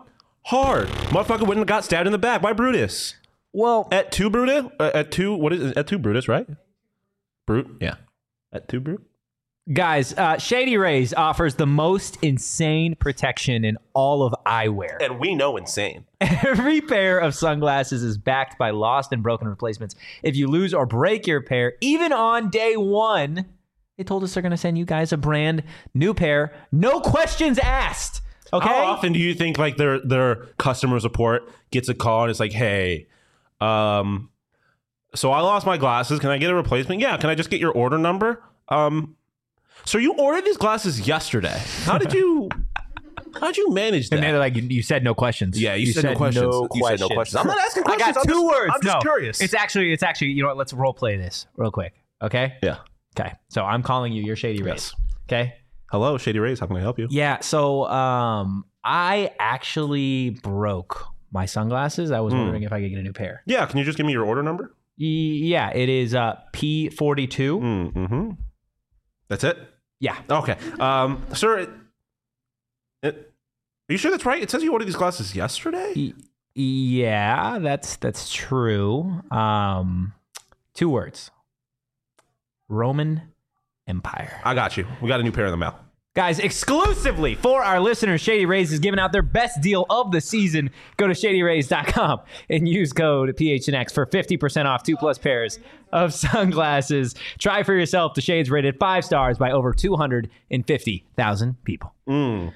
Hard. Motherfucker went and got stabbed in the back by Brutus. Well, At 2 Brutus? At 2, what is it? At 2 Brutus, right? Brute? Yeah. At 2 Brute? guys, Shady Rays offers the most insane protection in all of eyewear. And we know insane. Every pair of sunglasses is backed by lost and broken replacements. If you lose or break your pair, even on day one, they told us they're going to send you guys a brand new pair. No questions asked. Okay. How often do you think like their customer support gets a call and it's like, hey, so I lost my glasses. Can I get a replacement? Yeah. Can I just get your order number? So you ordered these glasses yesterday. How'd you manage that? And they're like, you said no questions. Yeah, you said no questions. You said no questions. I'm not asking questions. I got two words. I'm just curious. It's actually, you know what? Let's role play this real quick. Okay. Yeah. Okay. So I'm calling you. You're Shady Rays. Yes. Okay. Hello, Shady Rays. How can I help you? Yeah. So I actually broke my sunglasses. I was wondering if I could get a new pair. Yeah. Can you just give me your order number? Yeah. It is P42. Mm-hmm. That's it? Yeah. Okay. Sir, are you sure that's right? It says you ordered these glasses yesterday? Yeah, that's true. 2 words. Roman Empire. I got you. We got a new pair in the mail. Guys, exclusively for our listeners, Shady Rays is giving out their best deal of the season. Go to shadyrays.com and use code PHNX for 50% off 2+ pairs of sunglasses. Try for yourself. The shades rated 5 stars by over 250,000 people. The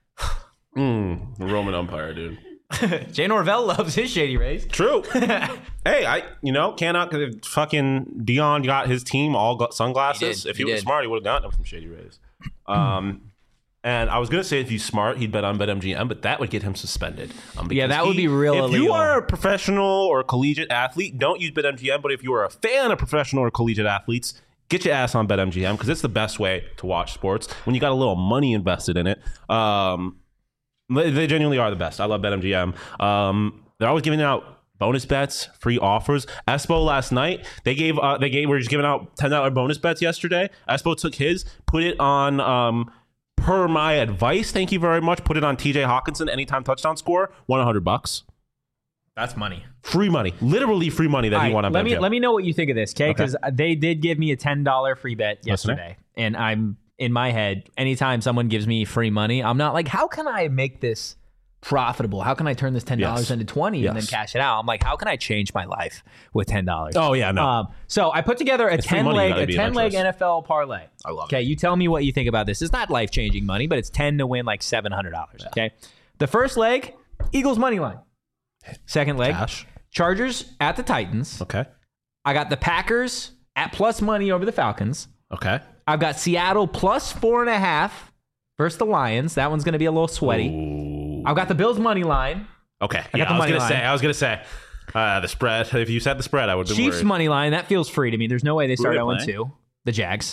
Roman Empire, dude. Jay Norvell loves his Shady Rays. True. Hey, cannot fucking Dion got his team all got sunglasses. If he was smart, he would have gotten them from Shady Rays. And I was gonna say if he's smart, he'd bet on BetMGM, but that would get him suspended. Yeah, that would be real If illegal. you are a professional or collegiate athlete, don't use BetMGM. But if you are a fan of professional or collegiate athletes, get your ass on BetMGM because it's the best way to watch sports when you got a little money invested in it. They genuinely are the best. I love BetMGM. They're always giving out bonus bets, free offers. Espo last night, we're just giving out $10 bonus bets yesterday. Espo took his, put it on, per my advice, thank you very much, put it on TJ Hawkinson, anytime touchdown score, won $100. That's money. Free money. Literally free money that he won on BetMGM. Let me know what you think of this, okay? Because they did give me a $10 free bet yesterday. And I'm, in my head, anytime someone gives me free money, I'm not like, how can I make this profitable? How can I turn this $10 into 20 and then cash it out? I'm like, how can I change my life with $10? Oh, yeah, no. So I put together a 10-leg NFL parlay. I love it. Okay, you tell me what you think about this. It's not life-changing money, but it's 10 to win like $700. Okay, the first leg, Eagles money line. Second leg, Cash. Chargers at the Titans. Okay. I got the Packers at plus money over the Falcons. Okay. I've got Seattle plus 4.5 versus the Lions. That one's going to be a little sweaty. Ooh. I've got the Bills money line. Okay. I got the money line. I was gonna say the spread. If you said the spread, I would have been Chiefs worried. money line. That feels free to me. There's no way they start Who are they 0-2. The Jags.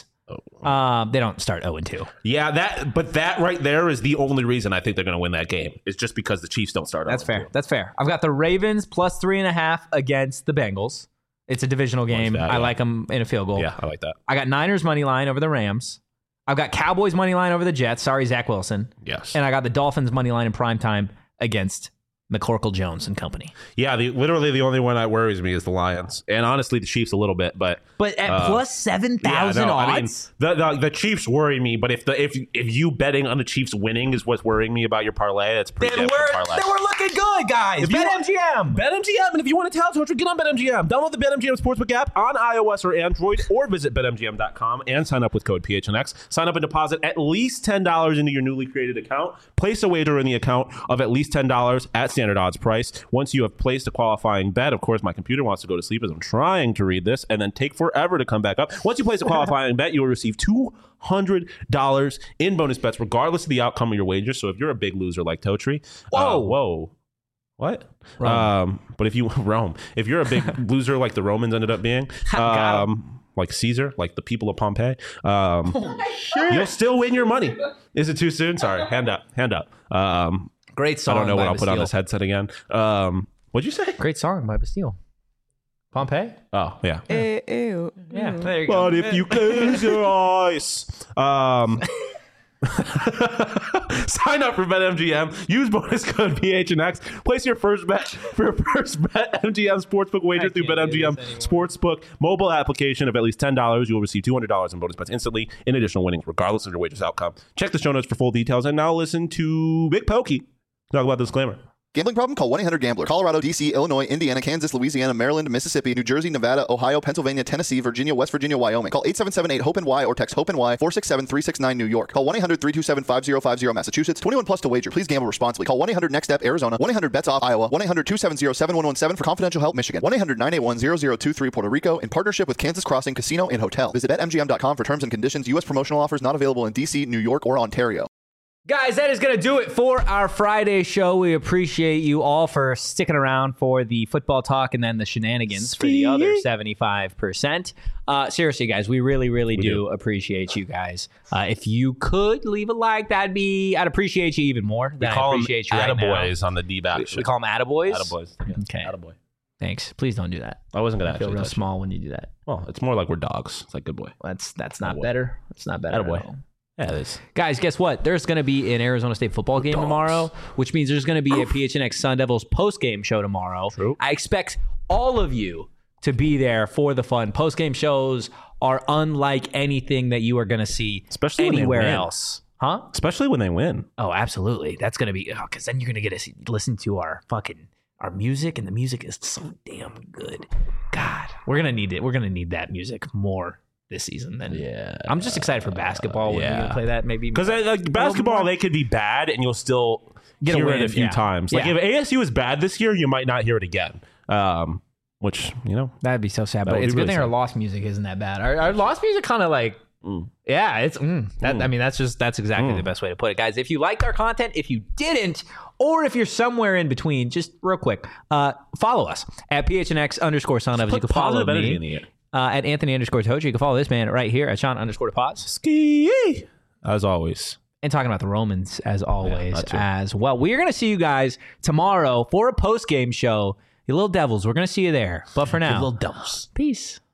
Oh. They don't start 0-2. Yeah, that right there is the only reason I think they're going to win that game. It's just because the Chiefs don't start. That's fair. That's fair. I've got the Ravens plus 3.5 against the Bengals. It's a divisional game. that, I yeah. like them in a field goal. Yeah, I like that. I got Niners money line over the Rams. I've got Cowboys money line over the Jets. Sorry, Zach Wilson. Yes. And I got the Dolphins money line in primetime against McCorkle Jones and company. Yeah, literally the only one that worries me is the Lions, and honestly the Chiefs a little bit. But at plus 7,000 odds, I mean, the Chiefs worry me. But if you betting on the Chiefs winning is what's worrying me about your parlay, that's pretty damn good parlay. Then we're looking good, guys. BetMGM. BetMGM, and if you want to tell Torture, get on BetMGM. Download the BetMGM Sportsbook app on iOS or Android, or visit BetMGM.com and sign up with code PHNX. Sign up and deposit at least $10 into your newly created account. Place a wager in the account of at least $10 at standard odds price. Once you have placed a qualifying bet, of course, my computer wants to go to sleep as I'm trying to read this, and then take forever to come back up. Once you place a qualifying bet, you will receive $200 in bonus bets, regardless of the outcome of your wager. So if you're a big loser like Totri, whoa. What? But if you're a big loser like the Romans ended up being, like Caesar, like the people of Pompeii, you'll still win your money. Is it too soon? Sorry. Hand up. Great song. I don't know what I'll put on Bastille. this headset again. What'd you say? Great song by Bastille. Pompeii? Oh, yeah. Ew. Yeah, there you go. But if you close your eyes. Sign up for BetMGM. Use bonus code PHNX. Place your first bet for your first BetMGM sportsbook wager through BetMGM Sportsbook mobile application of at least $10. You will receive $200 in bonus bets instantly in additional winnings, regardless of your wager's outcome. Check the show notes for full details. And now listen to Big Pokey talk about the disclaimer. Gambling problem? Call 1-800-GAMBLER. Colorado, D.C., Illinois, Indiana, Kansas, Louisiana, Maryland, Mississippi, New Jersey, Nevada, Ohio, Pennsylvania, Tennessee, Virginia, West Virginia, Wyoming. Call 877-8-HOPE-NY or text HOPE-NY 467-369 New York. Call 1-800-327-5050 Massachusetts. 21 plus to wager. Please gamble responsibly. Call 1-800-NEXT-STEP Arizona. 1-800-BETS-OFF Iowa. 1-800-270-7117 for confidential help Michigan. 1-800-981-0023 Puerto Rico in partnership with Kansas Crossing Casino and Hotel. Visit BetMGM.com for terms and conditions. U.S. promotional offers not available in D.C., New York, or Ontario. Guys, that is going to do it for our Friday show. We appreciate you all for sticking around for the football talk and then the shenanigans for the other 75%. Seriously, guys, we really, really do appreciate you guys. If you could leave a like, I'd appreciate you even more than I appreciate you right now. Attaboys on the D-back. We call them attaboys? Attaboys. Yeah. Okay. Attaboy. Thanks. Please don't do that. I wasn't going to feel actually real touch small when you do that. Well, it's more like we're dogs. It's like good boy. That's not better. It's not better Attaboy. at all. Yeah, it is. Guys, guess what? There's going to be an Arizona State football game tomorrow, which means there's going to be a PHNX Sun Devils post-game show tomorrow. True. I expect all of you to be there for the fun. Post-game shows are unlike anything that you are going to see Especially anywhere when they win. else. Huh? Especially when they win. Oh, absolutely. That's going to be, because then you're going to get to listen to our music, and the music is so damn good. God, we're going to need it. We're going to need that music more this season. Then I'm just excited for basketball when we're gonna play that. Maybe because like basketball, they could be bad and you'll still hear it a few times. Like if ASU is bad this year, you might not hear it again. Which that'd be so sad. But it's a good thing our lost music isn't that bad. Our lost music kind of like. It's that. I mean, that's exactly the best way to put it, guys. If you liked our content, if you didn't, or if you're somewhere in between, just real quick, follow us at PHNX_Son of. You can follow me at Anthony_Tochi. You can follow this man right here at Sean_Depots. Ski as always. And talking about the Romans as always as well. We're going to see you guys tomorrow for a post-game show. You little devils, we're going to see you there. But for now, little devils. Peace.